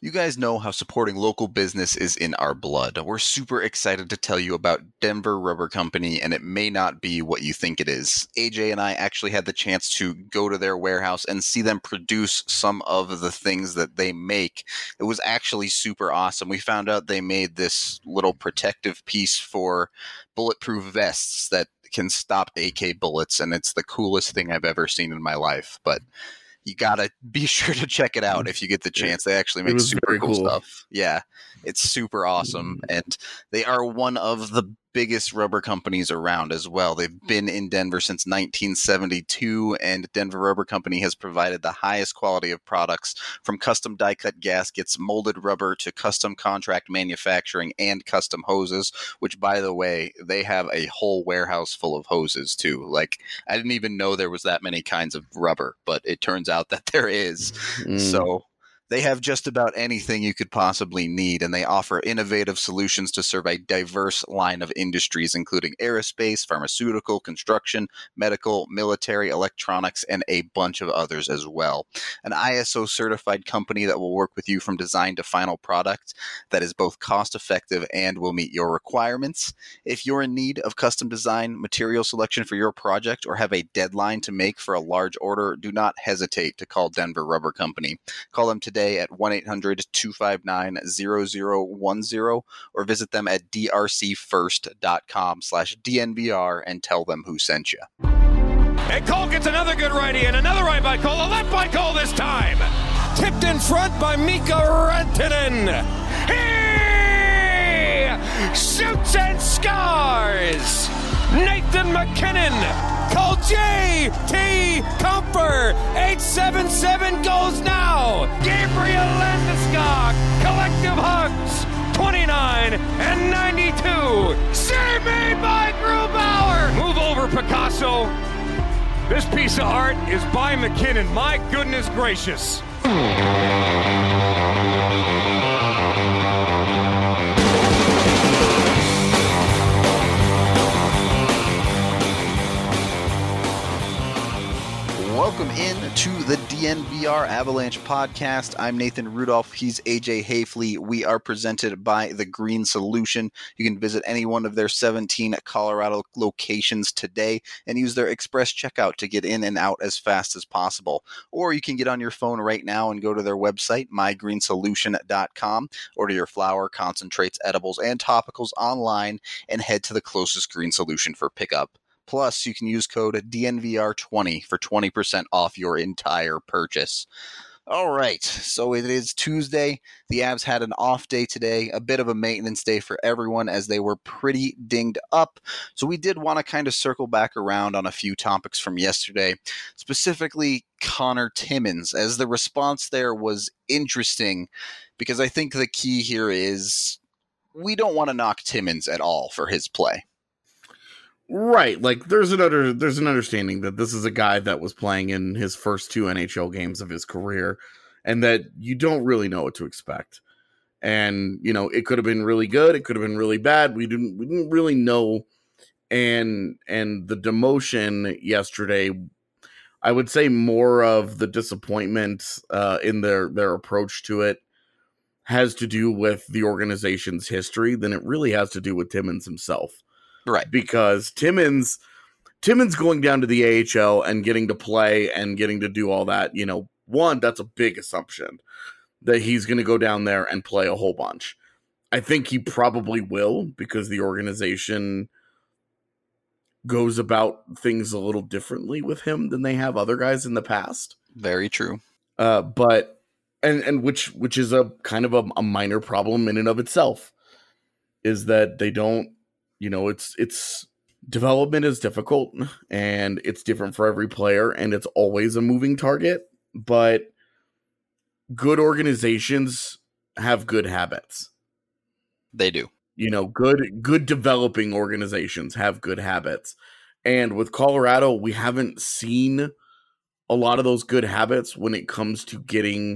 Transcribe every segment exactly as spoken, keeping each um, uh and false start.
You guys know how supporting local business is in our blood. We're super excited to tell you about Denver Rubber Company, and it may not be what you think it is. A J and I actually had the chance to go to their warehouse and see them produce some of the things that they make. It was actually super awesome. We found out they made this little protective piece for bulletproof vests that can stop A K bullets, and it's the coolest thing I've ever seen in my life. But you gotta be sure to check it out if you get the chance. They actually make super cool, cool stuff. Yeah, it's super awesome. And they are one of the biggest rubber companies around as well. They've been in Denver since nineteen seventy-two, and Denver Rubber Company has provided the highest quality of products, from custom die-cut gaskets, molded rubber, to custom contract manufacturing and custom hoses, which, by the way, they have a whole warehouse full of hoses too. Like, I didn't even know there was that many kinds of rubber, but it turns out that there is. Mm. So they have just about anything you could possibly need, and they offer innovative solutions to serve a diverse line of industries, including aerospace, pharmaceutical, construction, medical, military, electronics, and a bunch of others as well. An I S O-certified company that will work with you from design to final product that is both cost-effective and will meet your requirements. If you're in need of custom design, material selection for your project, or have a deadline to make for a large order, do not hesitate to call Denver Rubber Company. Call them today at one eight hundred two five nine zero zero one zero or visit them at drcfirst.com slash DNVR and tell them who sent you. And Cole gets another good righty and another right by Cole, a left by Cole this time. Tipped in front by Mika Rantanen. He shoots and scores. Nathan MacKinnon. Call J T Comfer. eight seven seven goes now. Gabriel Landeskog. Collective hugs. twenty-nine and ninety-two. Save me by Grubauer. Move over, Picasso. This piece of art is by MacKinnon. My goodness gracious. Welcome in to the D N V R Avalanche podcast. I'm Nathan Rudolph. He's A J Hafley. We are presented by The Green Solution. You can visit any one of their seventeen Colorado locations today and use their express checkout to get in and out as fast as possible. Or you can get on your phone right now and go to their website, my green solution dot com. Order your flour, concentrates, edibles, and topicals online and head to the closest Green Solution for pickup. Plus, you can use code D N V R twenty for twenty percent off your entire purchase. All right, so it is Tuesday. The Avs had an off day today, a bit of a maintenance day for everyone as they were pretty dinged up. So we did want to kind of circle back around on a few topics from yesterday, specifically Connor Timmins, as the response there was interesting, because I think the key here is we don't want to knock Timmins at all for his play. Right, like there's an under, there's an understanding that this is a guy that was playing in his first two N H L games of his career, and that you don't really know what to expect. And you know, it could have been really good, it could have been really bad. We didn't we didn't really know. And and the demotion yesterday, I would say more of the disappointment uh, in their their approach to it has to do with the organization's history than it really has to do with Timmins himself. Right. Because Timmins, Timmins going down to the A H L and getting to play and getting to do all that, you know, one, that's a big assumption that he's going to go down there and play a whole bunch. I think he probably will, because the organization goes about things a little differently with him than they have other guys in the past. Very true. Uh, but, and, and which, which is a kind of a, a minor problem in and of itself, is that they don't, You know, it's it's development is difficult and it's different for every player and it's always a moving target. But good organizations have good habits. They do. You know, good good developing organizations have good habits. And with Colorado, we haven't seen a lot of those good habits when it comes to getting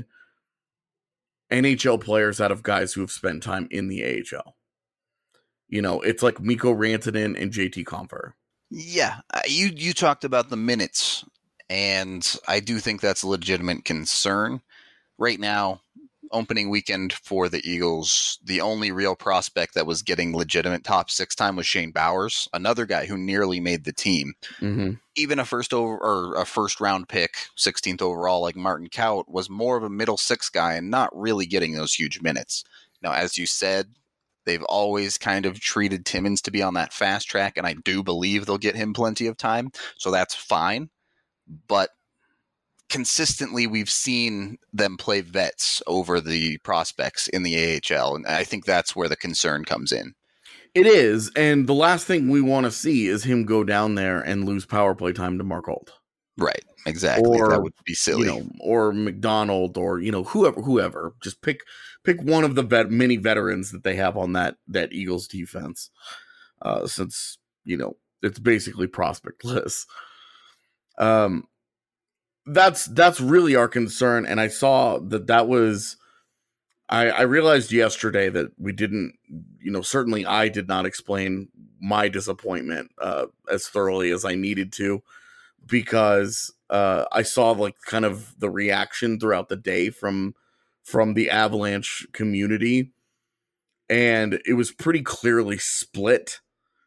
N H L players out of guys who have spent time in the A H L. You know, it's like Mikko Rantanen and J T Compher. Yeah, uh, you you talked about the minutes, and I do think that's a legitimate concern. Right now, opening weekend for the Eagles, the only real prospect that was getting legitimate top six time was Shane Bowers, another guy who nearly made the team. Mm-hmm. Even a first over or a first round pick, sixteenth overall, like Martin Kaut, was more of a middle six guy and not really getting those huge minutes. Now, as you said, they've always kind of treated Timmins to be on that fast track, and I do believe they'll get him plenty of time, so that's fine. But consistently, we've seen them play vets over the prospects in the A H L, and I think that's where the concern comes in. It is, and the last thing we want to see is him go down there and lose power play time to Mark Ault. Right, exactly. Or, that would be silly. You know, or McDonald, or you know, whoever, whoever. Just pick pick one of the vet, many veterans that they have on that that Eagles defense, uh, since you know it's basically prospectless. Um. That's that's really our concern, and I saw that that was. I, I realized yesterday that we didn't, you know, certainly I did not explain my disappointment uh, as thoroughly as I needed to, because uh, I saw like kind of the reaction throughout the day from from the Avalanche community, and it was pretty clearly split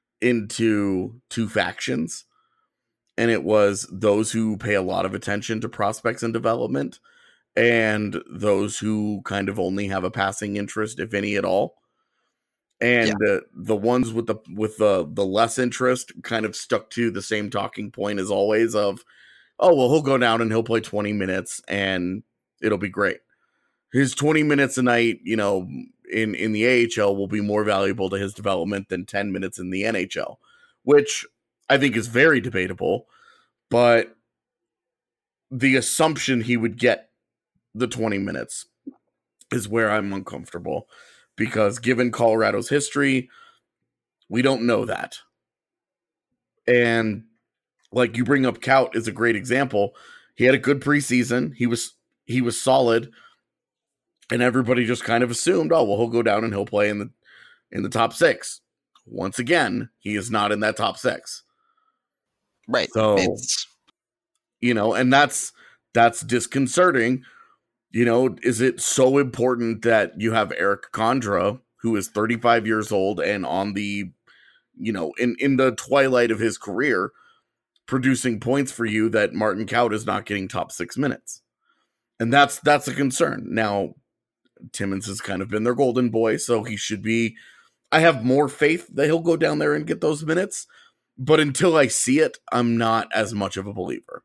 into two factions. And it was those who pay a lot of attention to prospects and development, and those who kind of only have a passing interest, if any at all. And yeah. uh, the ones with the with the the less interest kind of stuck to the same talking point as always of, oh well, he'll go down and he'll play twenty minutes and it'll be great. His twenty minutes a night, you know, in in the A H L will be more valuable to his development than ten minutes in the N H L, which I think is very debatable, but the assumption he would get the twenty minutes is where I'm uncomfortable, because given Colorado's history, we don't know that. And like you bring up, Kaut is a great example. He had a good preseason. He was he was solid, and everybody just kind of assumed, oh well, he'll go down and he'll play in the in the top six. Once again, he is not in that top six. Right. So, it's... you know, and that's that's disconcerting. You know, is it so important that you have Eric Condra, who is thirty-five years old and on the, you know, in, in the twilight of his career, producing points for you, that Martin Kaut is not getting top six minutes? And that's that's a concern. Now, Timmins has kind of been their golden boy, so he should be. I have more faith that he'll go down there and get those minutes. But until I see it, I'm not as much of a believer.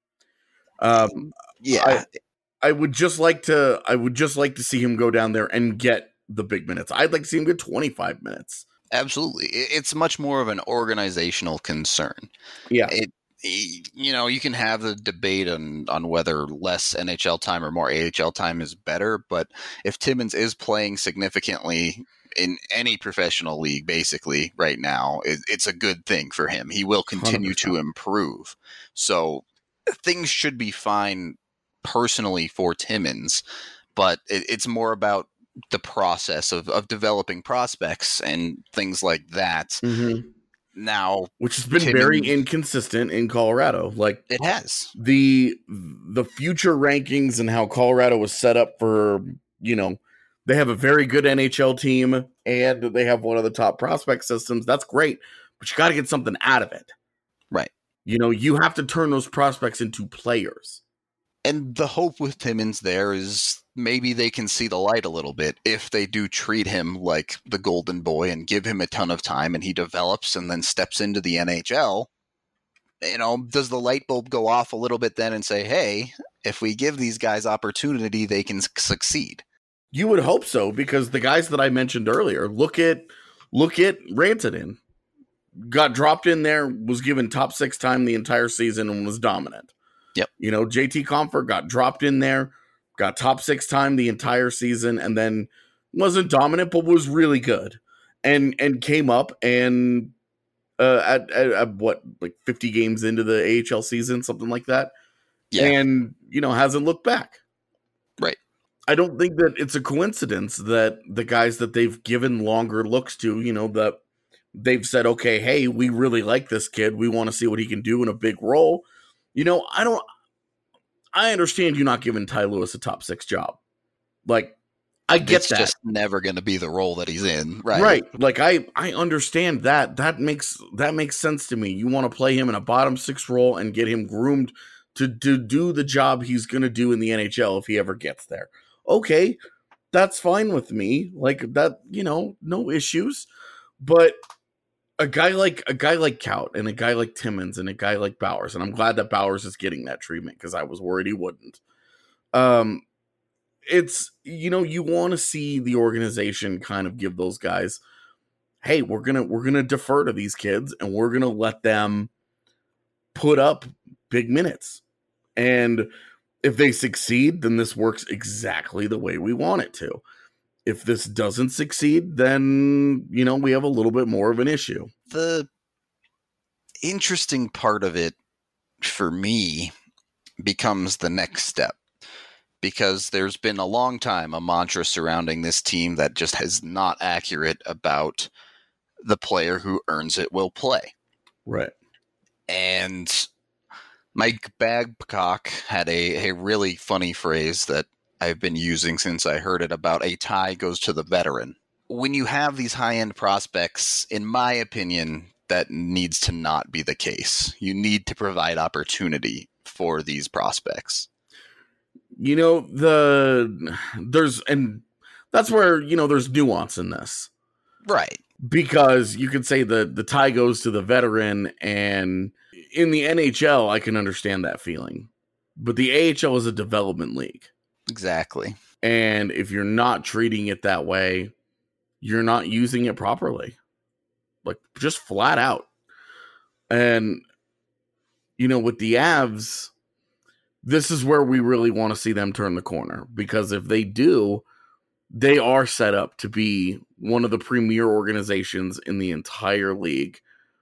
Um, yeah, I, I would just like to. I would just like to see him go down there and get the big minutes. I'd like to see him get twenty-five minutes. Absolutely, it's much more of an organizational concern. Yeah, it. You know, you can have the debate on on whether less N H L time or more A H L time is better, but if Timmins is playing significantly in any professional league, basically right now, it, it's a good thing for him. He will continue one hundred percent to improve. So things should be fine personally for Timmins, but it, it's more about the process of, of developing prospects and things like that. Mm-hmm. Now, which has been Timmins, very inconsistent in Colorado. Like it has the the future rankings and how Colorado was set up for, you know, they have a very good N H L team and they have one of the top prospect systems. That's great, but you got to get something out of it. Right. You know, you have to turn those prospects into players. And the hope with Timmins there is maybe they can see the light a little bit if they do treat him like the golden boy and give him a ton of time and he develops and then steps into the N H L. You know, does the light bulb go off a little bit then and say, hey, if we give these guys opportunity, they can succeed? You would hope so, because the guys that I mentioned earlier, look at look at Rantanen. Got dropped in there, was given top six time the entire season and was dominant. Yep. You know, J T Compher got dropped in there, got top six time the entire season, and then wasn't dominant, but was really good. And and came up and uh, at, at, at what, like fifty games into the A H L season, something like that. Yeah. And, you know, hasn't looked back. Right. I don't think that it's a coincidence that the guys that they've given longer looks to, you know, that they've said, okay, hey, we really like this kid. We want to see what he can do in a big role. You know, I don't, I understand you not giving Ty Lewis a top six job. Like, I get it's that. just never going to be the role that he's in, right? Right. Like I, I understand that. That makes that makes sense to me. You want to play him in a bottom six role and get him groomed to, to do the job he's going to do in the N H L if he ever gets there. Okay, that's fine with me. Like that, you know, no issues. But a guy like a guy like Kaut and a guy like Timmins and a guy like Bowers, and I'm glad that Bowers is getting that treatment because I was worried he wouldn't. Um, it's, you know, you want to see the organization kind of give those guys, hey, we're gonna we're gonna defer to these kids and we're gonna let them put up big minutes. And if they succeed, then this works exactly the way we want it to. If this doesn't succeed, then, you know, we have a little bit more of an issue. The interesting part of it for me becomes the next step, because there's been a long time a mantra surrounding this team that just is not accurate about the player who earns it will play. Right. And Mike Babcock had a, a really funny phrase that I've been using since I heard it about a tie goes to the veteran. When you have these high-end prospects, in my opinion, that needs to not be the case. You need to provide opportunity for these prospects. You know, the there's, and that's where, you know, there's nuance in this. Right. Because you could say the, the tie goes to the veteran, and in the N H L, I can understand that feeling. But the A H L is a development league. Exactly. And if you're not treating it that way, you're not using it properly. Like, just flat out. And, you know, with the Avs, this is where we really want to see them turn the corner. Because if they do, they are set up to be one of the premier organizations in the entire league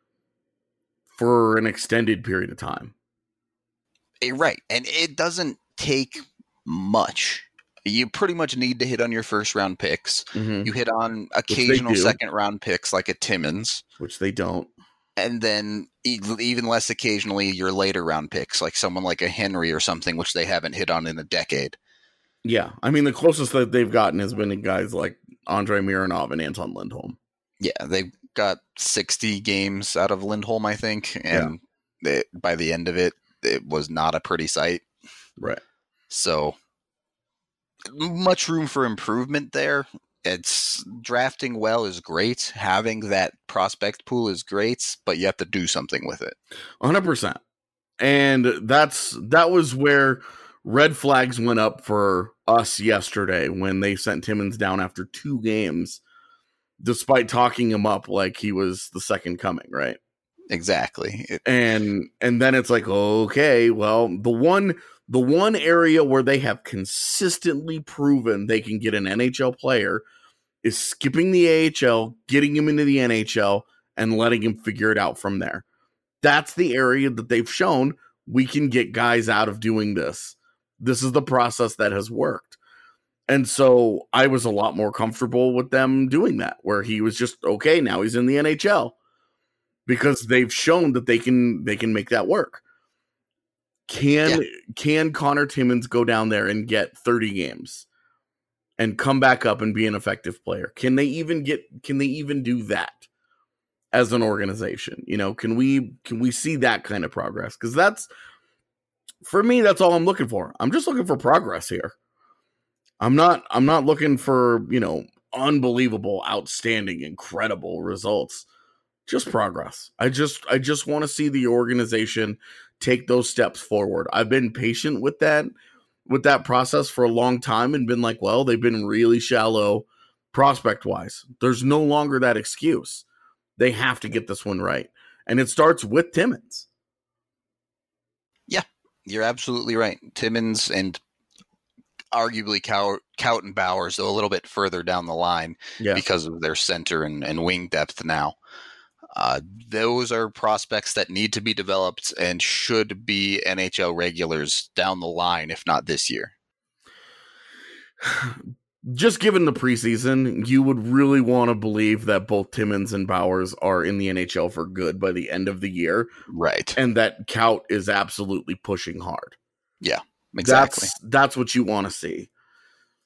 for an extended period of time. Right. And it doesn't take much. You pretty much need to hit on your first round picks. Mm-hmm. You hit on occasional second round picks like a Timmins, which they don't. And then even less occasionally your later round picks, like someone like a Henry or something, which they haven't hit on in a decade. Yeah. I mean, the closest that they've gotten has been guys like Andrei Mironov and Anton Lindholm. Yeah. They got sixty games out of Lindholm, I think. And yeah. it, by the end of it, it was not a pretty sight. Right. So much room for improvement there. It's drafting well is great. Having that prospect pool is great, but you have to do something with it. one hundred percent. And that's that was where red flags went up for us yesterday when they sent Timmins down after two games, despite talking him up like he was the second coming, right? Exactly. It, and and then it's like, okay, well, the one the one area where they have consistently proven they can get an N H L player is skipping the A H L, getting him into the N H L, and letting him figure it out from there. That's the area that they've shown we can get guys out of doing this. This is the process that has worked. And so I was a lot more comfortable with them doing that, where he was just, okay, now he's in the N H L. Because they've shown that they can they can make that work. Can yeah. can Connor Timmins go down there and get thirty games and come back up and be an effective player? Can they even get can they even do that as an organization? You know, can we can we see that kind of progress? Because that's, for me, that's all I'm looking for. I'm just looking for progress here. I'm not I'm not looking for, you know, unbelievable, outstanding, incredible results. Just progress. I just I just want to see the organization take those steps forward. I've been patient with that with that process for a long time and been like, well, they've been really shallow prospect wise. There's no longer that excuse. They have to get this one right. And it starts with Timmins. Yeah, you're absolutely right. Timmins and arguably Kaut, Kaut and Bowers, though a little bit further down the line yeah. because of their center and, and wing depth now. Uh, those are prospects that need to be developed and should be N H L regulars down the line, if not this year. Just given the preseason, you would really want to believe that both Timmins and Bowers are in the N H L for good by the end of the year. Right. And that Kaut is absolutely pushing hard. Yeah, exactly. That's, that's what you want to see.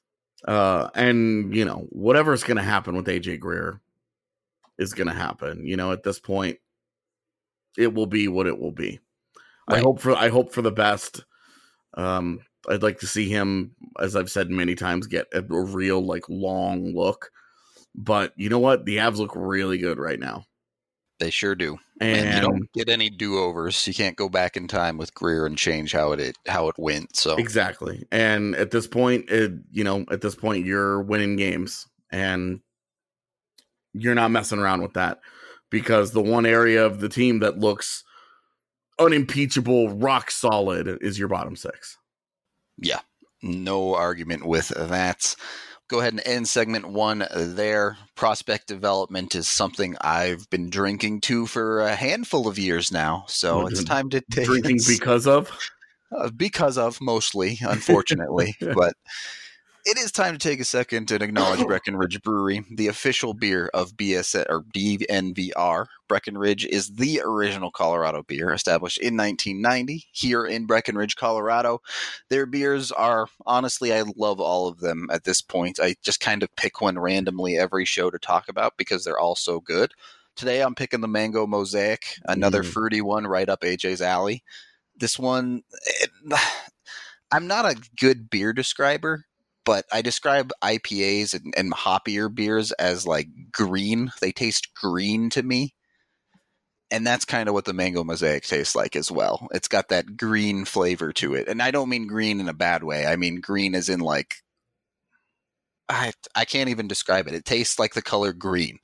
Uh, and, you know, whatever's going to happen with A J Greer is going to happen. You know, at this point, it will be what it will be. Right. I hope for I hope for the best. Um, I'd like to see him, as I've said many times, get a, a real, like, long look. But you know what? The Avs look really good right now. They sure do. And, and you don't get any do-overs. You can't go back in time with Greer and change how it how it went. So exactly. And at this point, it, you know, at this point, you're winning games, and you're not messing around with that, because the one area of the team that looks unimpeachable, rock solid, is your bottom six. Yeah, no argument with that. Go ahead and end segment one there. Prospect development is something I've been drinking to for a handful of years now. So it's time to take drinking because of uh, because of mostly, unfortunately, but it is time to take a second and acknowledge Breckenridge Brewery, the official beer of B S or D N V R. Breckenridge is the original Colorado beer, established in nineteen ninety here in Breckenridge, Colorado. Their beers are, honestly, I love all of them at this point. I just kind of pick one randomly every show to talk about because they're all so good. Today I'm picking the Mango Mosaic, another mm. fruity one right up A J's alley. This one, it, I'm not a good beer describer, but I describe I P As and, and hoppier beers as like green. They taste green to me. And that's kind of what the Mango Mosaic tastes like as well. It's got that green flavor to it. And I don't mean green in a bad way. I mean green as in like, I I can't even describe it. It tastes like the color green.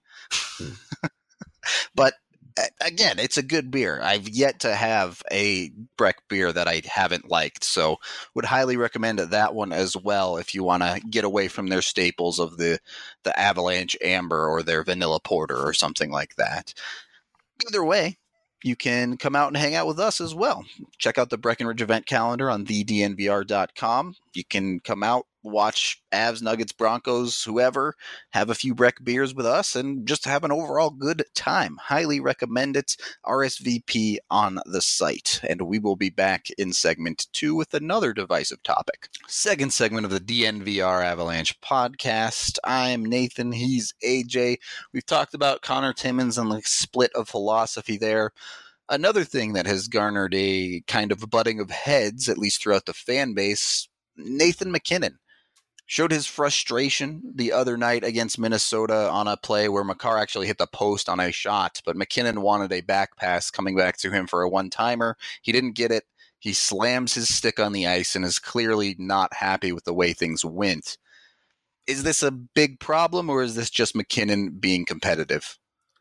But again, it's a good beer. I've yet to have a Breck beer that I haven't liked, so would highly recommend that one as well if you want to get away from their staples of the, the Avalanche Amber or their Vanilla Porter or something like that. Either way, you can come out and hang out with us as well. Check out the Breckenridge event calendar on the D N V R dot com. You can come out, watch Avs, Nuggets, Broncos, whoever, have a few Breck beers with us, and just have an overall good time. Highly recommend it. R S V P on the site. And we will be back in segment two with another divisive topic. Second segment of the D N V R Avalanche podcast. I'm Nathan. He's A J. We've talked about Connor Timmins and the split of philosophy there. Another thing that has garnered a kind of butting of heads, at least throughout the fan base, Nathan MacKinnon showed his frustration the other night against Minnesota on a play where Makar actually hit the post on a shot, but MacKinnon wanted a back pass coming back to him for a one-timer. He didn't get it. He slams his stick on the ice and is clearly not happy with the way things went. Is this a big problem, or is this just MacKinnon being competitive?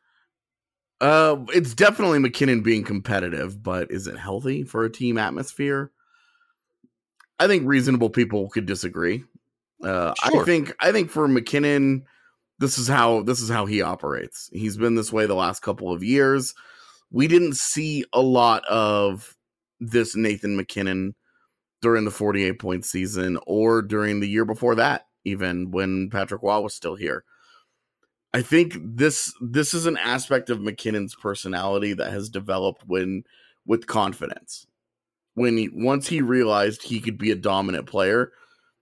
Uh, it's definitely MacKinnon being competitive, but is it healthy for a team atmosphere? I think reasonable people could disagree. Uh, sure. I think I think for MacKinnon, this is how this is how he operates. He's been this way the last couple of years. We didn't see a lot of this Nathan MacKinnon during the forty-eight point season or during the year before that, even when Patrick Waugh was still here. I think this this is an aspect of MacKinnon's personality that has developed when with confidence. When he once he realized he could be a dominant player,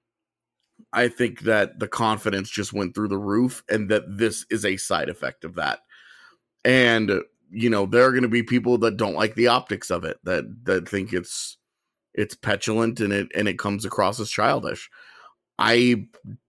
I think that the confidence just went through the roof, and that this is a side effect of that. And, you know, there are going to be people that don't like the optics of it, that that think it's it's petulant and it and it comes across as childish. I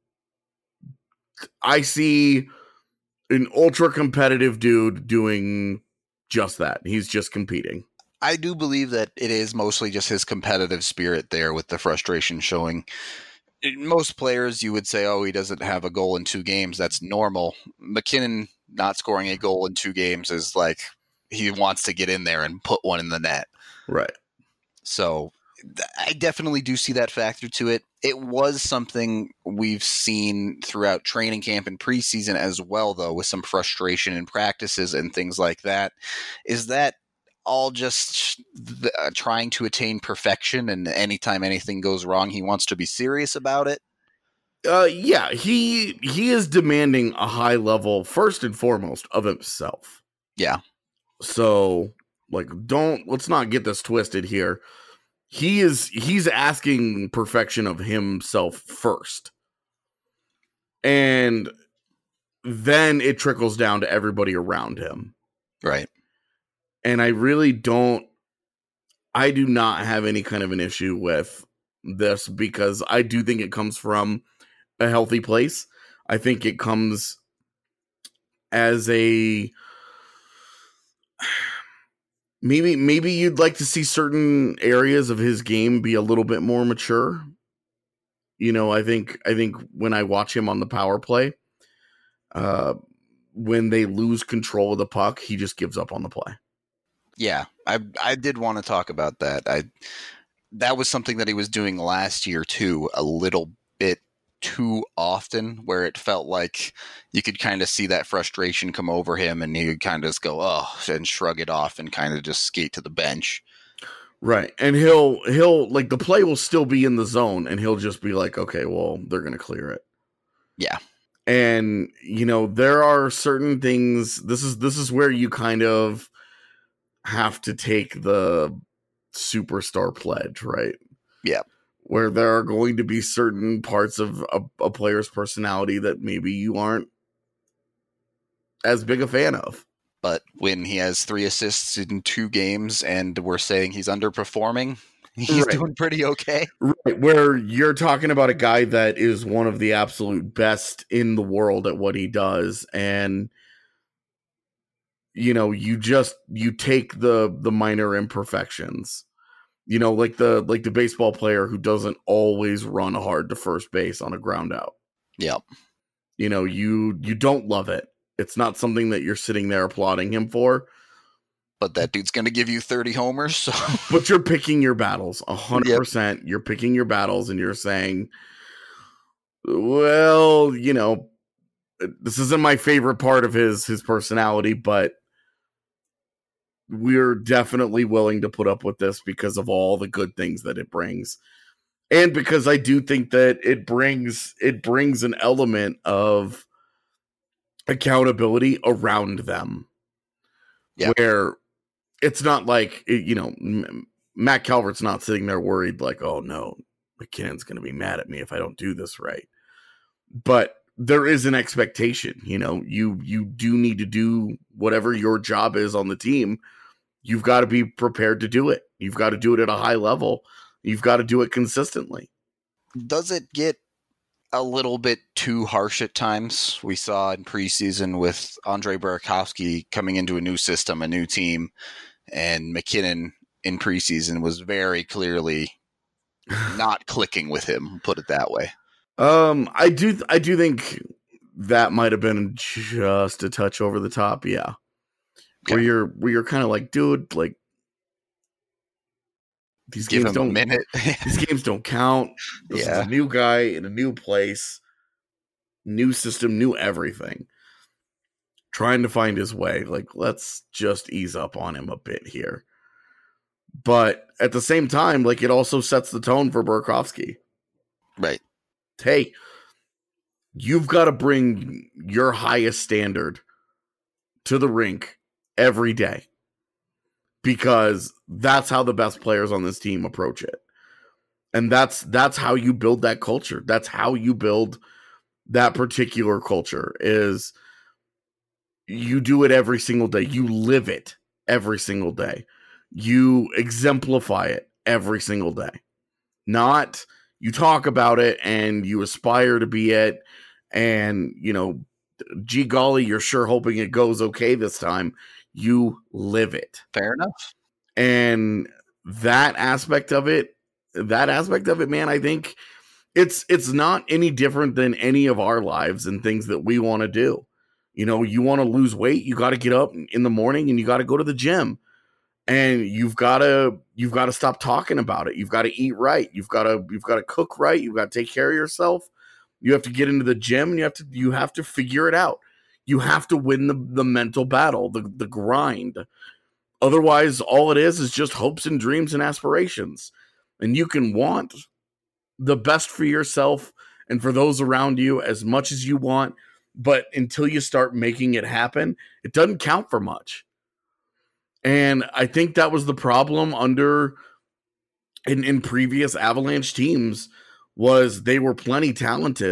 I see an ultra competitive dude doing just that. He's just competing. I do believe that it is mostly just his competitive spirit there with the frustration showing. Most players, you would say, oh, he doesn't have a goal in two games. That's normal. MacKinnon not scoring a goal in two games is like he wants to get in there and put one in the net. Right. So I definitely do see that factor to it. It was something we've seen throughout training camp and preseason as well, though, with some frustration in practices and things like that. Is that all just the, uh, trying to attain perfection, and anytime anything goes wrong, he wants to be serious about it? Uh, yeah, he he is demanding a high level, first and foremost, of himself. Yeah. So, like, don't, let's not get this twisted here. He is, he's asking perfection of himself first. And then it trickles down to everybody around him. Right. And I really don't, I do not have any kind of an issue with this because I do think it comes from a healthy place. I think it comes as a, maybe, maybe you'd like to see certain areas of his game be a little bit more mature. You know, I think, I think when I watch him on the power play, uh, when they lose control of the puck, he just gives up on the play. Yeah, I I did want to talk about that. I that was something that he was doing last year too, a little bit too often, where it felt like you could kind of see that frustration come over him, and he would kind of just go, "Oh," and shrug it off, and kind of just skate to the bench. Right, and he'll he'll like the play will still be in the zone, and he'll just be like, "Okay, well, they're gonna clear it." Yeah. And you know, there are certain things. This is this is where you kind of have to take the superstar pledge, right? Yeah. Where there are going to be certain parts of a, a player's personality that maybe you aren't as big a fan of. But when he has three assists in two games and we're saying he's underperforming, he's right. doing pretty okay. Right. Where you're talking about a guy that is one of the absolute best in the world at what he does. And you know, you just, you take the, the minor imperfections, you know, like the, like the baseball player who doesn't always run hard to first base on a ground out. Yep. You know, you, you don't love it. It's not something that you're sitting there applauding him for, but that dude's going to give you thirty homers. So. But you're picking your battles a hundred percent. You're picking your battles and you're saying, well, you know, this isn't my favorite part of his, his personality, but we're definitely willing to put up with this because of all the good things that it brings. And because I do think that it brings, it brings an element of accountability around them. Yeah. Where it's not like, you know, Matt Calvert's not sitting there worried like, oh no, MacKinnon's going to be mad at me if I don't do this right. But there is an expectation, you know, you, you do need to do whatever your job is on the team. You've got to be prepared to do it. You've got to do it at a high level. You've got to do it consistently. Does it get a little bit too harsh at times? We saw in preseason with Andre Burakovsky coming into a new system, a new team, and MacKinnon in preseason was very clearly not clicking with him, put it that way. Um, I do, I do think that might have been just a touch over the top. Yeah. Okay. Where you're, where you're kind of like, dude, like these Give games him don't, a minute. these games don't count. This yeah. is a new guy in a new place, new system, new everything. Trying to find his way. Like, let's just ease up on him a bit here. But at the same time, like it also sets the tone for Burakovsky. Right. Hey, you've got to bring your highest standard to the rink every day because that's how the best players on this team approach it. And that's, that's how you build that culture. That's how you build that particular culture is you do it every single day. You live it every single day. You exemplify it every single day. Not you talk about it and you aspire to be it. And, you know, gee golly, you're sure hoping it goes okay this time. You live it. Fair enough. And that aspect of it, that aspect of it, man, I think it's, it's not any different than any of our lives and things that we want to do. You know, you want to lose weight, you got to get up in the morning and you got to go to the gym. And you've got to, you've got to stop talking about it. You've got to eat right. You've got to, you've got to cook right. You've got to take care of yourself. You have to get into the gym and you have to, you have to figure it out. You have to win the, the mental battle, the, the grind. Otherwise, all it is is just hopes and dreams and aspirations. And you can want the best for yourself and for those around you as much as you want. But until you start making it happen, it doesn't count for much. And I think that was the problem under in, in previous Avalanche teams was they were plenty talented,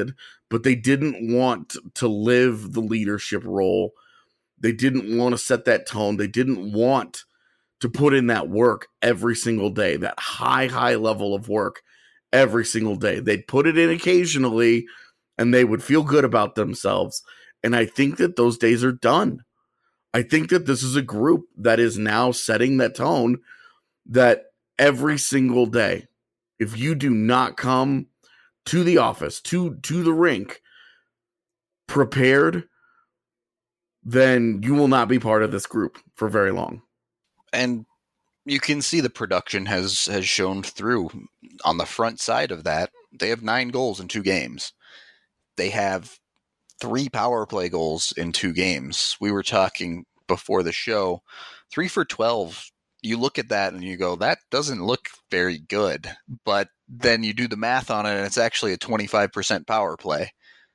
but they didn't want to live the leadership role. They didn't want to set that tone. They didn't want to put in that work every single day, that high, high level of work every single day. They'd put it in occasionally and they would feel good about themselves. And I think that those days are done. I think that this is a group that is now setting that tone that every single day, if you do not come to the office, to, to the rink, prepared, then you will not be part of this group for very long. And you can see the production has, has shown through. On the front side of that, they have nine goals in two games. They have three power play goals in two games. We were talking before the show, three for twelve. You look at that and you go, that doesn't look very good. But then you do the math on it and it's actually a twenty-five percent power play.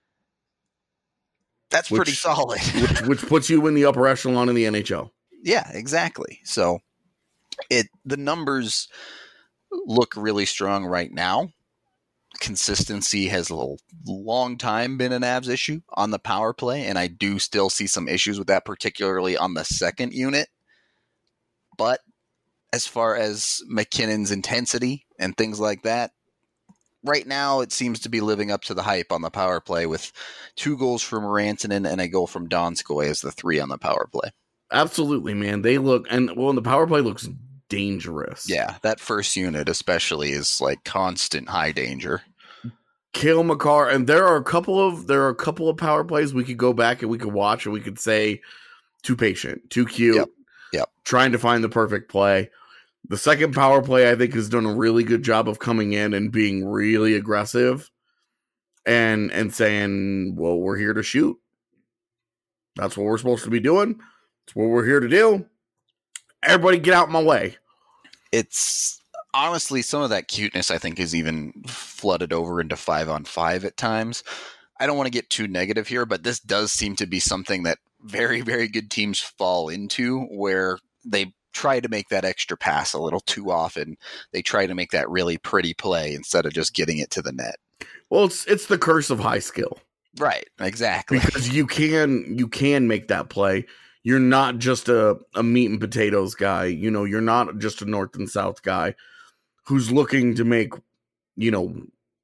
That's which, pretty solid. which, which puts you in the upper echelon in the N H L. Yeah, exactly. So it the numbers look really strong right now. Consistency has a long time been an Avs issue on the power play, and I do still see some issues with that, particularly on the second unit. But as far as MacKinnon's intensity and things like that, right now it seems to be living up to the hype on the power play with two goals from Rantanen and a goal from Donskoy as the three on the power play. Absolutely, man. They look, and well, the power play looks dangerous. Yeah, that first unit especially is like constant high danger. Cale Makar, and there are a couple of there are a couple of power plays we could go back and we could watch and we could say too patient, too cute, yep. Yep. trying to find the perfect play. The second power play, I think, has done a really good job of coming in and being really aggressive and and saying, well, we're here to shoot. That's what we're supposed to be doing. That's what we're here to do. Everybody get out of my way. It's honestly, some of that cuteness, I think, is even flooded over into five on five at times. I don't want to get too negative here, but this does seem to be something that very, very good teams fall into, where they try to make that extra pass a little too often. They try to make that really pretty play instead of just getting it to the net. Well, it's it's the curse of high skill. Right, exactly. Because you can you can make that play. You're not just a, a meat and potatoes guy. You know, you're not just a north and south guy who's looking to make, you know,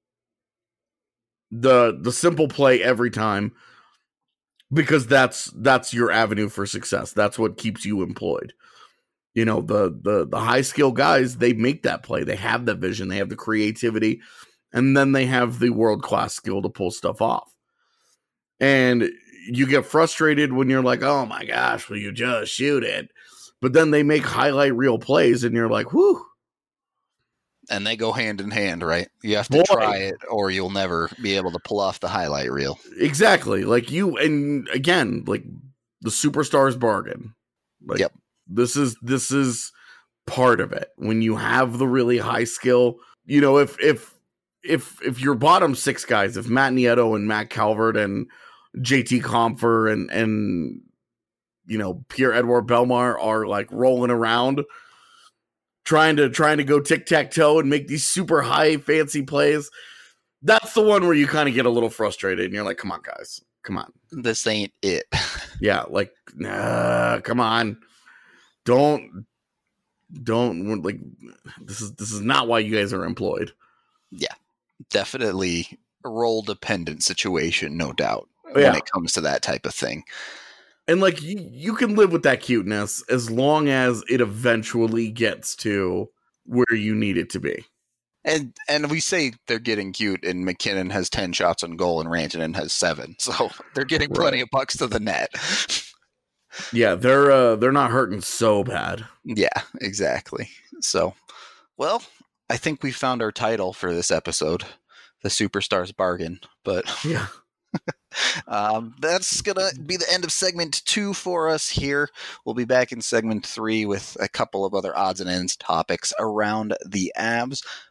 the the simple play every time, because that's that's your avenue for success. That's what keeps you employed. You know, the the the high skill guys, they make that play. They have the vision, they have the creativity, and then they have the world class skill to pull stuff off. And you get frustrated when you're like, oh my gosh, will you just shoot it? But then they make highlight reel plays and you're like, whew. And they go hand in hand, right? You have to Boy. try it or you'll never be able to pull off the highlight reel. Exactly. Like you, and again, like the superstars bargain. Like, yep. This is, this is part of it. When you have the really high skill, you know, if, if, if, if your bottom six guys, if Matt Nieto and Matt Calvert and J T Compher and, and, you know, Pierre-Edouard Bellemare are like rolling around trying to, trying to go tic-tac-toe and make these super high fancy plays. That's the one where you kind of get a little frustrated and you're like, come on, guys, come on. This ain't it. Yeah. Like, nah, come on. Don't, don't like, this is, this is not why you guys are employed. Yeah, definitely a role dependent situation, no doubt. Yeah. When it comes to that type of thing. And like you, you can live with that cuteness as long as it eventually gets to where you need it to be. And and we say they're getting cute, and MacKinnon has ten shots on goal, and Rantanen has seven, so they're getting plenty right. of pucks to the net. Yeah, they're uh, they're not hurting so bad. Yeah, exactly. So, well, I think we found our title for this episode, the Superstars Bargain. But yeah. um, that's going to be the end of segment two for us here. We'll be back in segment three with a couple of other odds and ends topics around the Avs.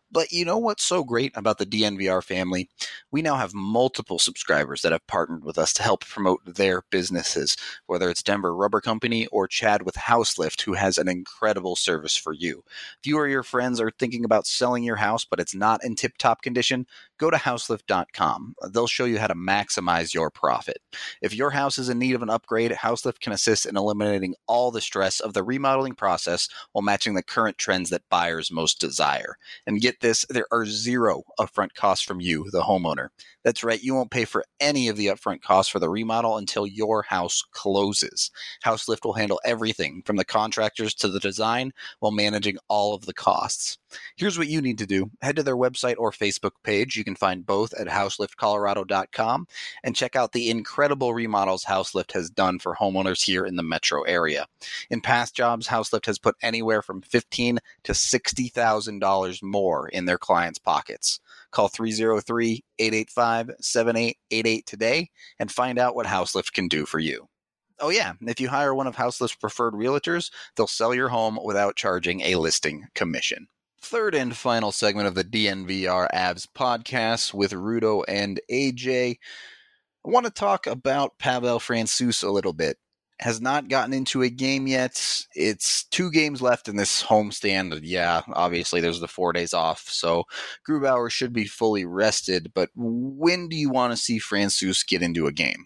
But you know what's so great about the D N V R family? We now have multiple subscribers that have partnered with us to help promote their businesses, whether it's Denver Rubber Company or Chad with Houselift, who has an incredible service for you. If you or your friends are thinking about selling your house, but it's not in tip-top condition, go to houselift dot com. They'll show you how to maximize your profit. If your house is in need of an upgrade, Houselift can assist in eliminating all the stress of the remodeling process while matching the current trends that buyers most desire. And get this, there are zero upfront costs from you, the homeowner. That's right, you won't pay for any of the upfront costs for the remodel until your house closes. Houselift will handle everything from the contractors to the design while managing all of the costs. Here's what you need to do. Head to their website or Facebook page. You can find both at houselift colorado dot com and check out the incredible remodels Houselift has done for homeowners here in the metro area. In past jobs, Houselift has put anywhere from fifteen thousand dollars to sixty thousand dollars more in their clients' pockets. Call three oh three, eight eight five, seven eight eight eight today and find out what Houselift can do for you. Oh yeah, if you hire one of Houselift's preferred realtors, they'll sell your home without charging a listing commission. Third and final segment of the D N V R Avs podcast with Rudo and A J. I want to talk about Pavel Francouz a little bit. Has not gotten into a game yet. It's two games left in this homestand. Yeah, obviously there's the four days off, so Grubauer should be fully rested. But when do you want to see Francouz get into a game?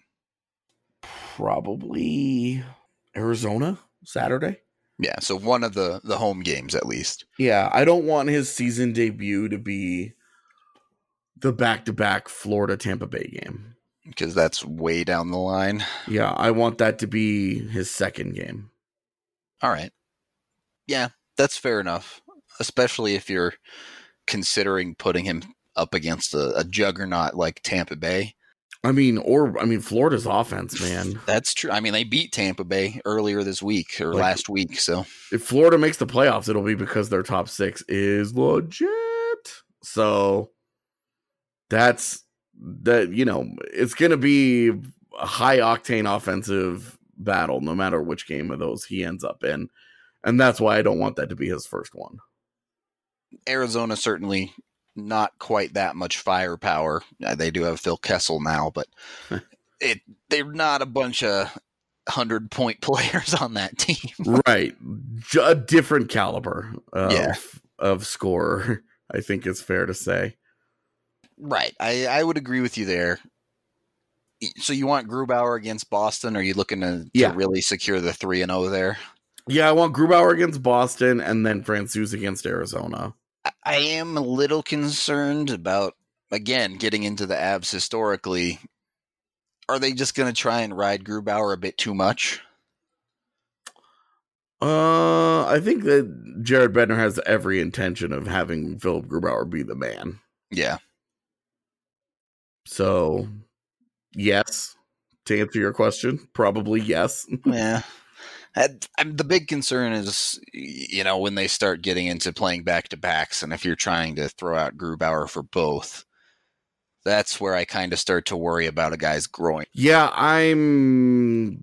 Probably Arizona, Saturday. Yeah, so one of the, the home games at least. Yeah, I don't want his season debut to be the back-to-back Florida-Tampa Bay game. Because that's way down the line. Yeah, I want that to be his second game. All right. Yeah, that's fair enough. Especially if you're considering putting him up against a, a juggernaut like Tampa Bay. I mean, or, I mean, Florida's offense, man. That's true. I mean, they beat Tampa Bay earlier this week or like, last week. So if Florida makes the playoffs, it'll be because their top six is legit. So that's that, you know, it's going to be a high octane offensive battle, no matter which game of those he ends up in. And that's why I don't want that to be his first one. Arizona certainly not quite that much firepower. Uh, they do have Phil Kessel now, but it they're not a bunch of hundred-point players on that team. Right. A different caliber of, yeah. of scorer, I think it's fair to say. Right. I, I would agree with you there. So you want Grubauer against Boston? Or are you looking to, to yeah. really secure the three and oh there? Yeah, I want Grubauer against Boston and then Francouz against Arizona. I am a little concerned about, again, getting into the Avs historically. Are they just going to try and ride Grubauer a bit too much? Uh, I think that Jared Bednar has every intention of having Philip Grubauer be the man. Yeah. So, yes. To answer your question, probably yes. Yeah. I, I'm, the big concern is, you know, when they start getting into playing back-to-backs, and if you're trying to throw out Grubauer for both, that's where I kind of start to worry about a guy's groin. Yeah, I'm...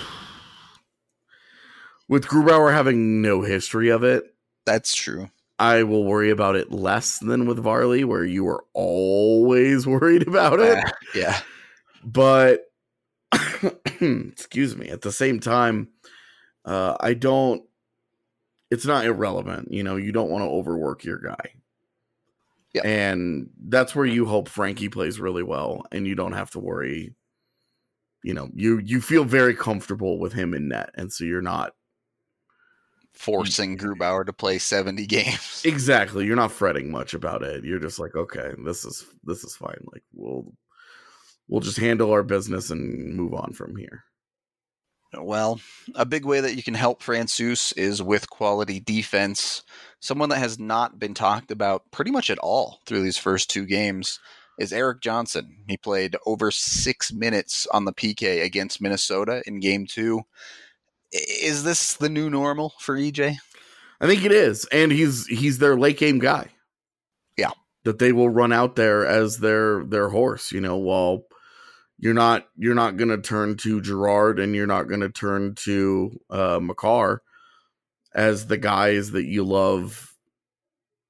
With Grubauer having no history of it, that's true. I will worry about it less than with Varley, where you were always worried about it. Uh, yeah. But, excuse me, at the same time, Uh, I don't, it's not irrelevant. You know, you don't want to overwork your guy. Yeah. And that's where you hope Frankie plays really well and you don't have to worry. You know, you, you feel very comfortable with him in net. And so you're not forcing Grubauer to play seventy games. Exactly. You're not fretting much about it. You're just like, okay, this is, this is fine. Like we'll, we'll just handle our business and move on from here. Well, a big way that you can help Francouz is with quality defense. Someone that has not been talked about pretty much at all through these first two games is Erik Johnson. He played over six minutes on the P K against Minnesota in game two. Is this the new normal for E J? I think it is. And he's he's their late game guy. Yeah. That they will run out there as their their horse, you know, while You're not you're not going to turn to Girard and you're not going to turn to uh, Makar as the guys that you love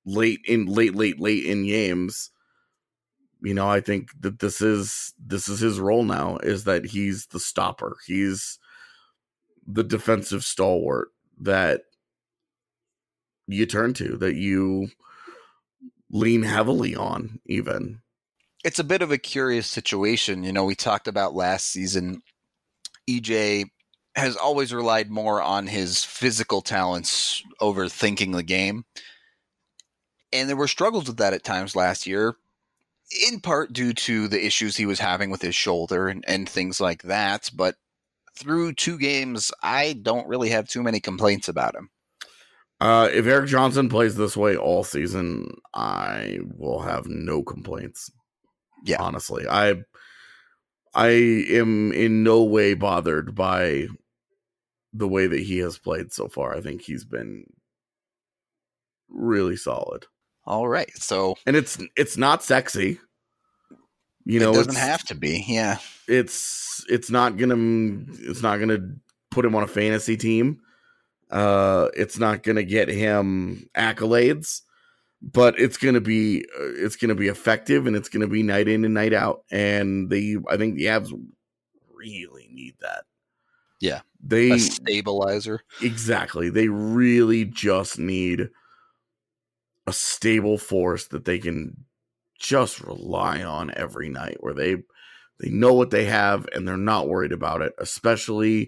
late in late, late, late in games. You know, I think that this is this is his role now, is that he's the stopper. He's the defensive stalwart that you turn to, that you lean heavily on even. It's a bit of a curious situation. You know, we talked about last season, E J has always relied more on his physical talents over thinking the game. And there were struggles with that at times last year, in part due to the issues he was having with his shoulder and, and things like that. But through two games, I don't really have too many complaints about him. Uh, if Eric Johnson plays this way all season, I will have no complaints. Yeah. Honestly, I I am in no way bothered by the way that he has played so far. I think he's been really solid. All right. So, and it's it's not sexy. You know, it doesn't have to be. Yeah. It's it's not gonna it's not gonna put him on a fantasy team. Uh, it's not gonna get him accolades, but it's gonna be uh, it's gonna be effective, and it's gonna be night in and night out. And they, I think the Avs really need that. Yeah, they a stabilizer. Exactly. They really just need a stable force that they can just rely on every night, where they they know what they have and they're not worried about it, especially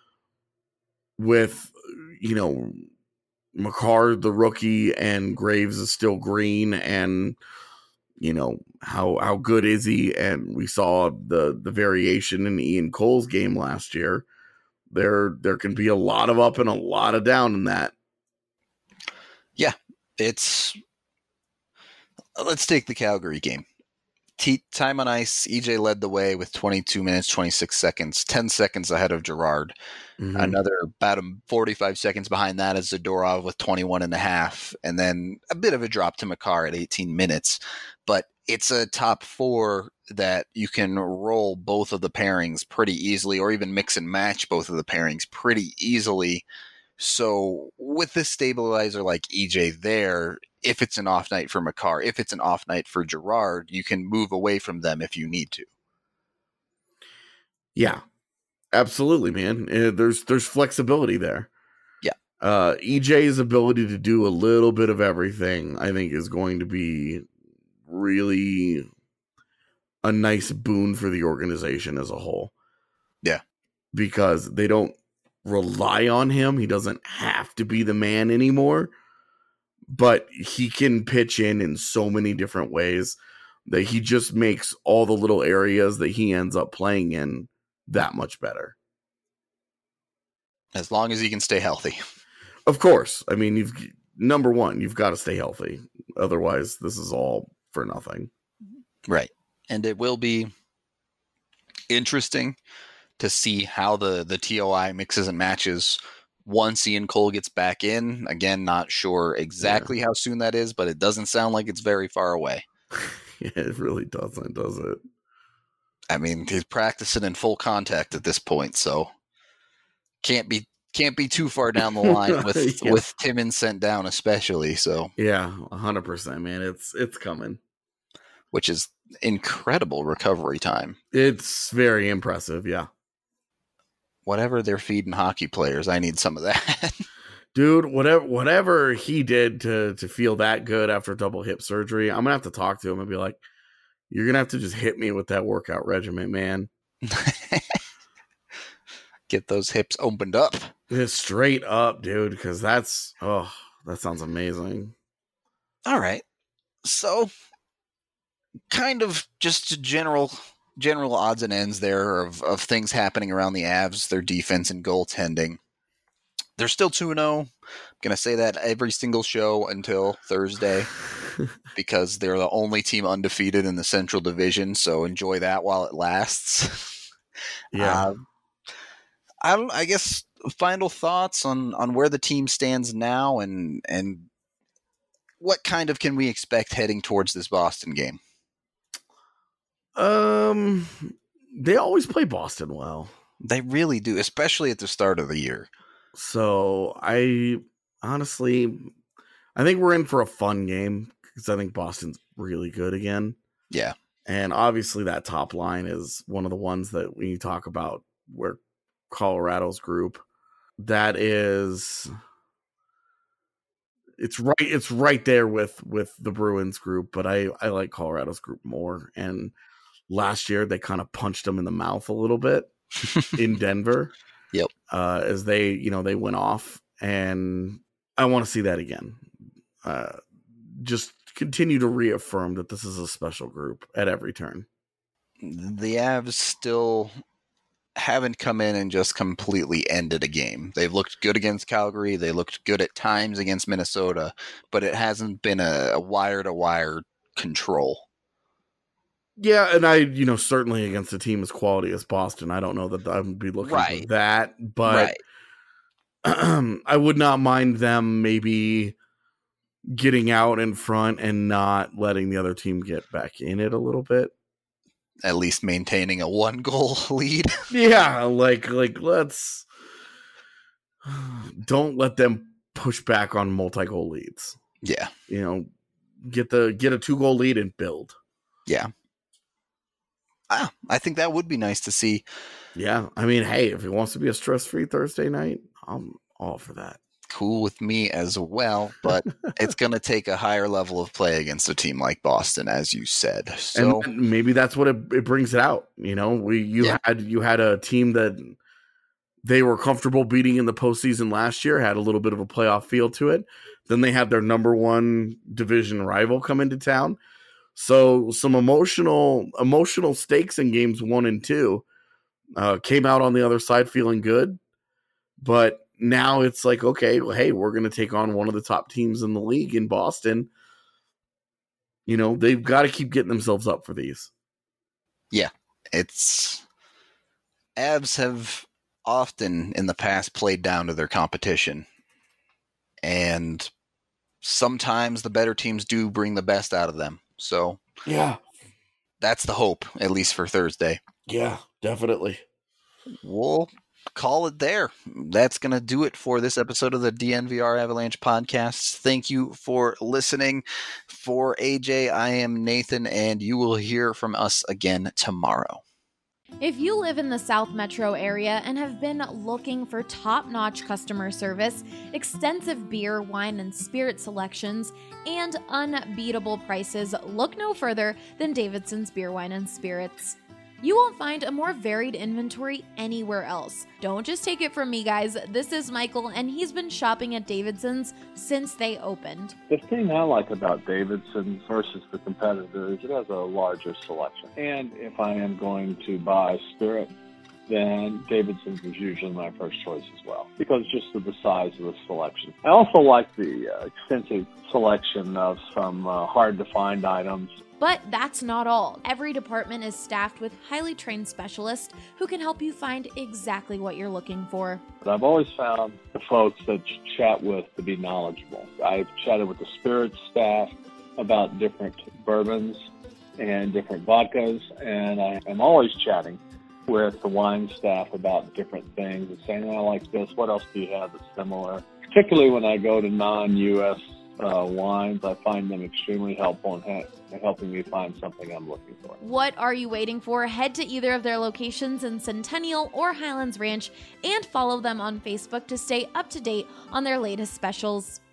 with, you know, Makar, the rookie, and Graves is still green, and you know, how how good is he? And we saw the the variation in Ian Cole's game last year. There there can be a lot of up and a lot of down in that. Yeah, it's let's take the Calgary game. T- time on ice, E J led the way with twenty-two minutes, twenty-six seconds, ten seconds ahead of Girard. Mm-hmm. Another about forty-five seconds behind that is Zadorov with twenty-one and a half, and then a bit of a drop to Makar at eighteen minutes. But it's a top four that you can roll both of the pairings pretty easily, or even mix and match both of the pairings pretty easily. So with this stabilizer like E J there, if it's an off night for Makar, if it's an off night for Girard, you can move away from them if you need to. Yeah, absolutely, man. Uh, there's there's flexibility there. Yeah. Uh, E J's ability to do a little bit of everything, I think, is going to be really a nice boon for the organization as a whole. Yeah. Because they don't rely on him. He doesn't have to be the man anymore, but he can pitch in in so many different ways that he just makes all the little areas that he ends up playing in that much better. As long as he can stay healthy. Of course. I mean, you've number one, you've got to stay healthy. Otherwise, this is all for nothing. Right. And it will be interesting to see how the, the T O I mixes and matches once Ian Cole gets back in. Again, not sure exactly yeah. how soon that is, but it doesn't sound like it's very far away. Yeah, it really doesn't, does it? I mean, he's practicing in full contact at this point, so can't be can't be too far down the line with yeah. with Timmins sent down, especially. So yeah, a hundred percent, man. It's it's coming, which is incredible recovery time. It's very impressive. Yeah. Whatever they're feeding hockey players, I need some of that. Dude, whatever whatever he did to to feel that good after double hip surgery, I'm gonna have to talk to him and be like, you're gonna have to just hit me with that workout regimen, man. Get those hips opened up. Just straight up, dude, because that's oh, that sounds amazing. All right. So kind of just a general general odds and ends there of, of things happening around the Avs, their defense and goaltending. They're still two and oh. I'm going to say that every single show until Thursday because they're the only team undefeated in the Central Division, so enjoy that while it lasts. Yeah. Uh, I don't I guess final thoughts on, on where the team stands now and and what kind of can we expect heading towards this Boston game? Um, they always play Boston well. They really do, especially at the start of the year. So I honestly, I think we're in for a fun game because I think Boston's really good again. Yeah. And obviously that top line is one of the ones that when you talk about where Colorado's group, that is, it's right, it's right there with, with the Bruins group, but I, I like Colorado's group more. And last year they kind of punched them in the mouth a little bit in Denver. Yep. Uh, as they, you know, they went off, and I want to see that again. Uh, just continue to reaffirm that this is a special group at every turn. The Avs still haven't come in and just completely ended a game. They've looked good against Calgary. They looked good at times against Minnesota, but it hasn't been a, a wire-to-wire control. Yeah, and I, you know, certainly against a team as quality as Boston, I don't know that I would be looking right. for that, but right. I would not mind them maybe getting out in front and not letting the other team get back in it a little bit. At least maintaining a one goal lead. Yeah, like like let's don't let them push back on multi-goal leads. Yeah. You know, get the get a two-goal lead and build. Yeah. Ah, I think that would be nice to see. Yeah. I mean, hey, if it wants to be a stress-free Thursday night, I'm all for that. Cool with me as well, but it's going to take a higher level of play against a team like Boston, as you said. So and maybe that's what it, it brings it out. You know, we you yeah. had you had a team that they were comfortable beating in the postseason last year, had a little bit of a playoff feel to it. Then they had their number one division rival come into town. So some emotional emotional stakes in games one and two uh, came out on the other side feeling good, but now it's like, okay, well, hey, we're going to take on one of the top teams in the league in Boston. You know, they've got to keep getting themselves up for these. Yeah, it's Avs have often in the past played down to their competition, and sometimes the better teams do bring the best out of them. So yeah, that's the hope, at least for Thursday. Yeah, definitely. We'll call it there. That's going to do it for this episode of the D N V R Avalanche podcast. Thank you for listening. For A J, I am Nathan, and you will hear from us again tomorrow. If you live in the South Metro area and have been looking for top-notch customer service, extensive beer, wine, and spirit selections, and unbeatable prices, look no further than Davidson's Beer, Wine, and Spirits. You won't find a more varied inventory anywhere else. Don't just take it from me, guys. This is Michael, and he's been shopping at Davidson's since they opened. The thing I like about Davidson's versus the competitors, it has a larger selection. And if I am going to buy spirit, then Davidson's is usually my first choice as well, because just of the size of the selection. I also like the uh, extensive selection of some uh, hard-to-find items. But that's not all. Every department is staffed with highly trained specialists who can help you find exactly what you're looking for. But I've always found the folks that you chat with to be knowledgeable. I've chatted with the spirits staff about different bourbons and different vodkas, and I am always chatting with the wine staff about different things and saying, oh, I like this, what else do you have that's similar? Particularly when I go to non-U S Uh, wines, I find them extremely helpful in ha- helping me find something I'm looking for. What are you waiting for? Head to either of their locations in Centennial or Highlands Ranch and follow them on Facebook to stay up to date on their latest specials.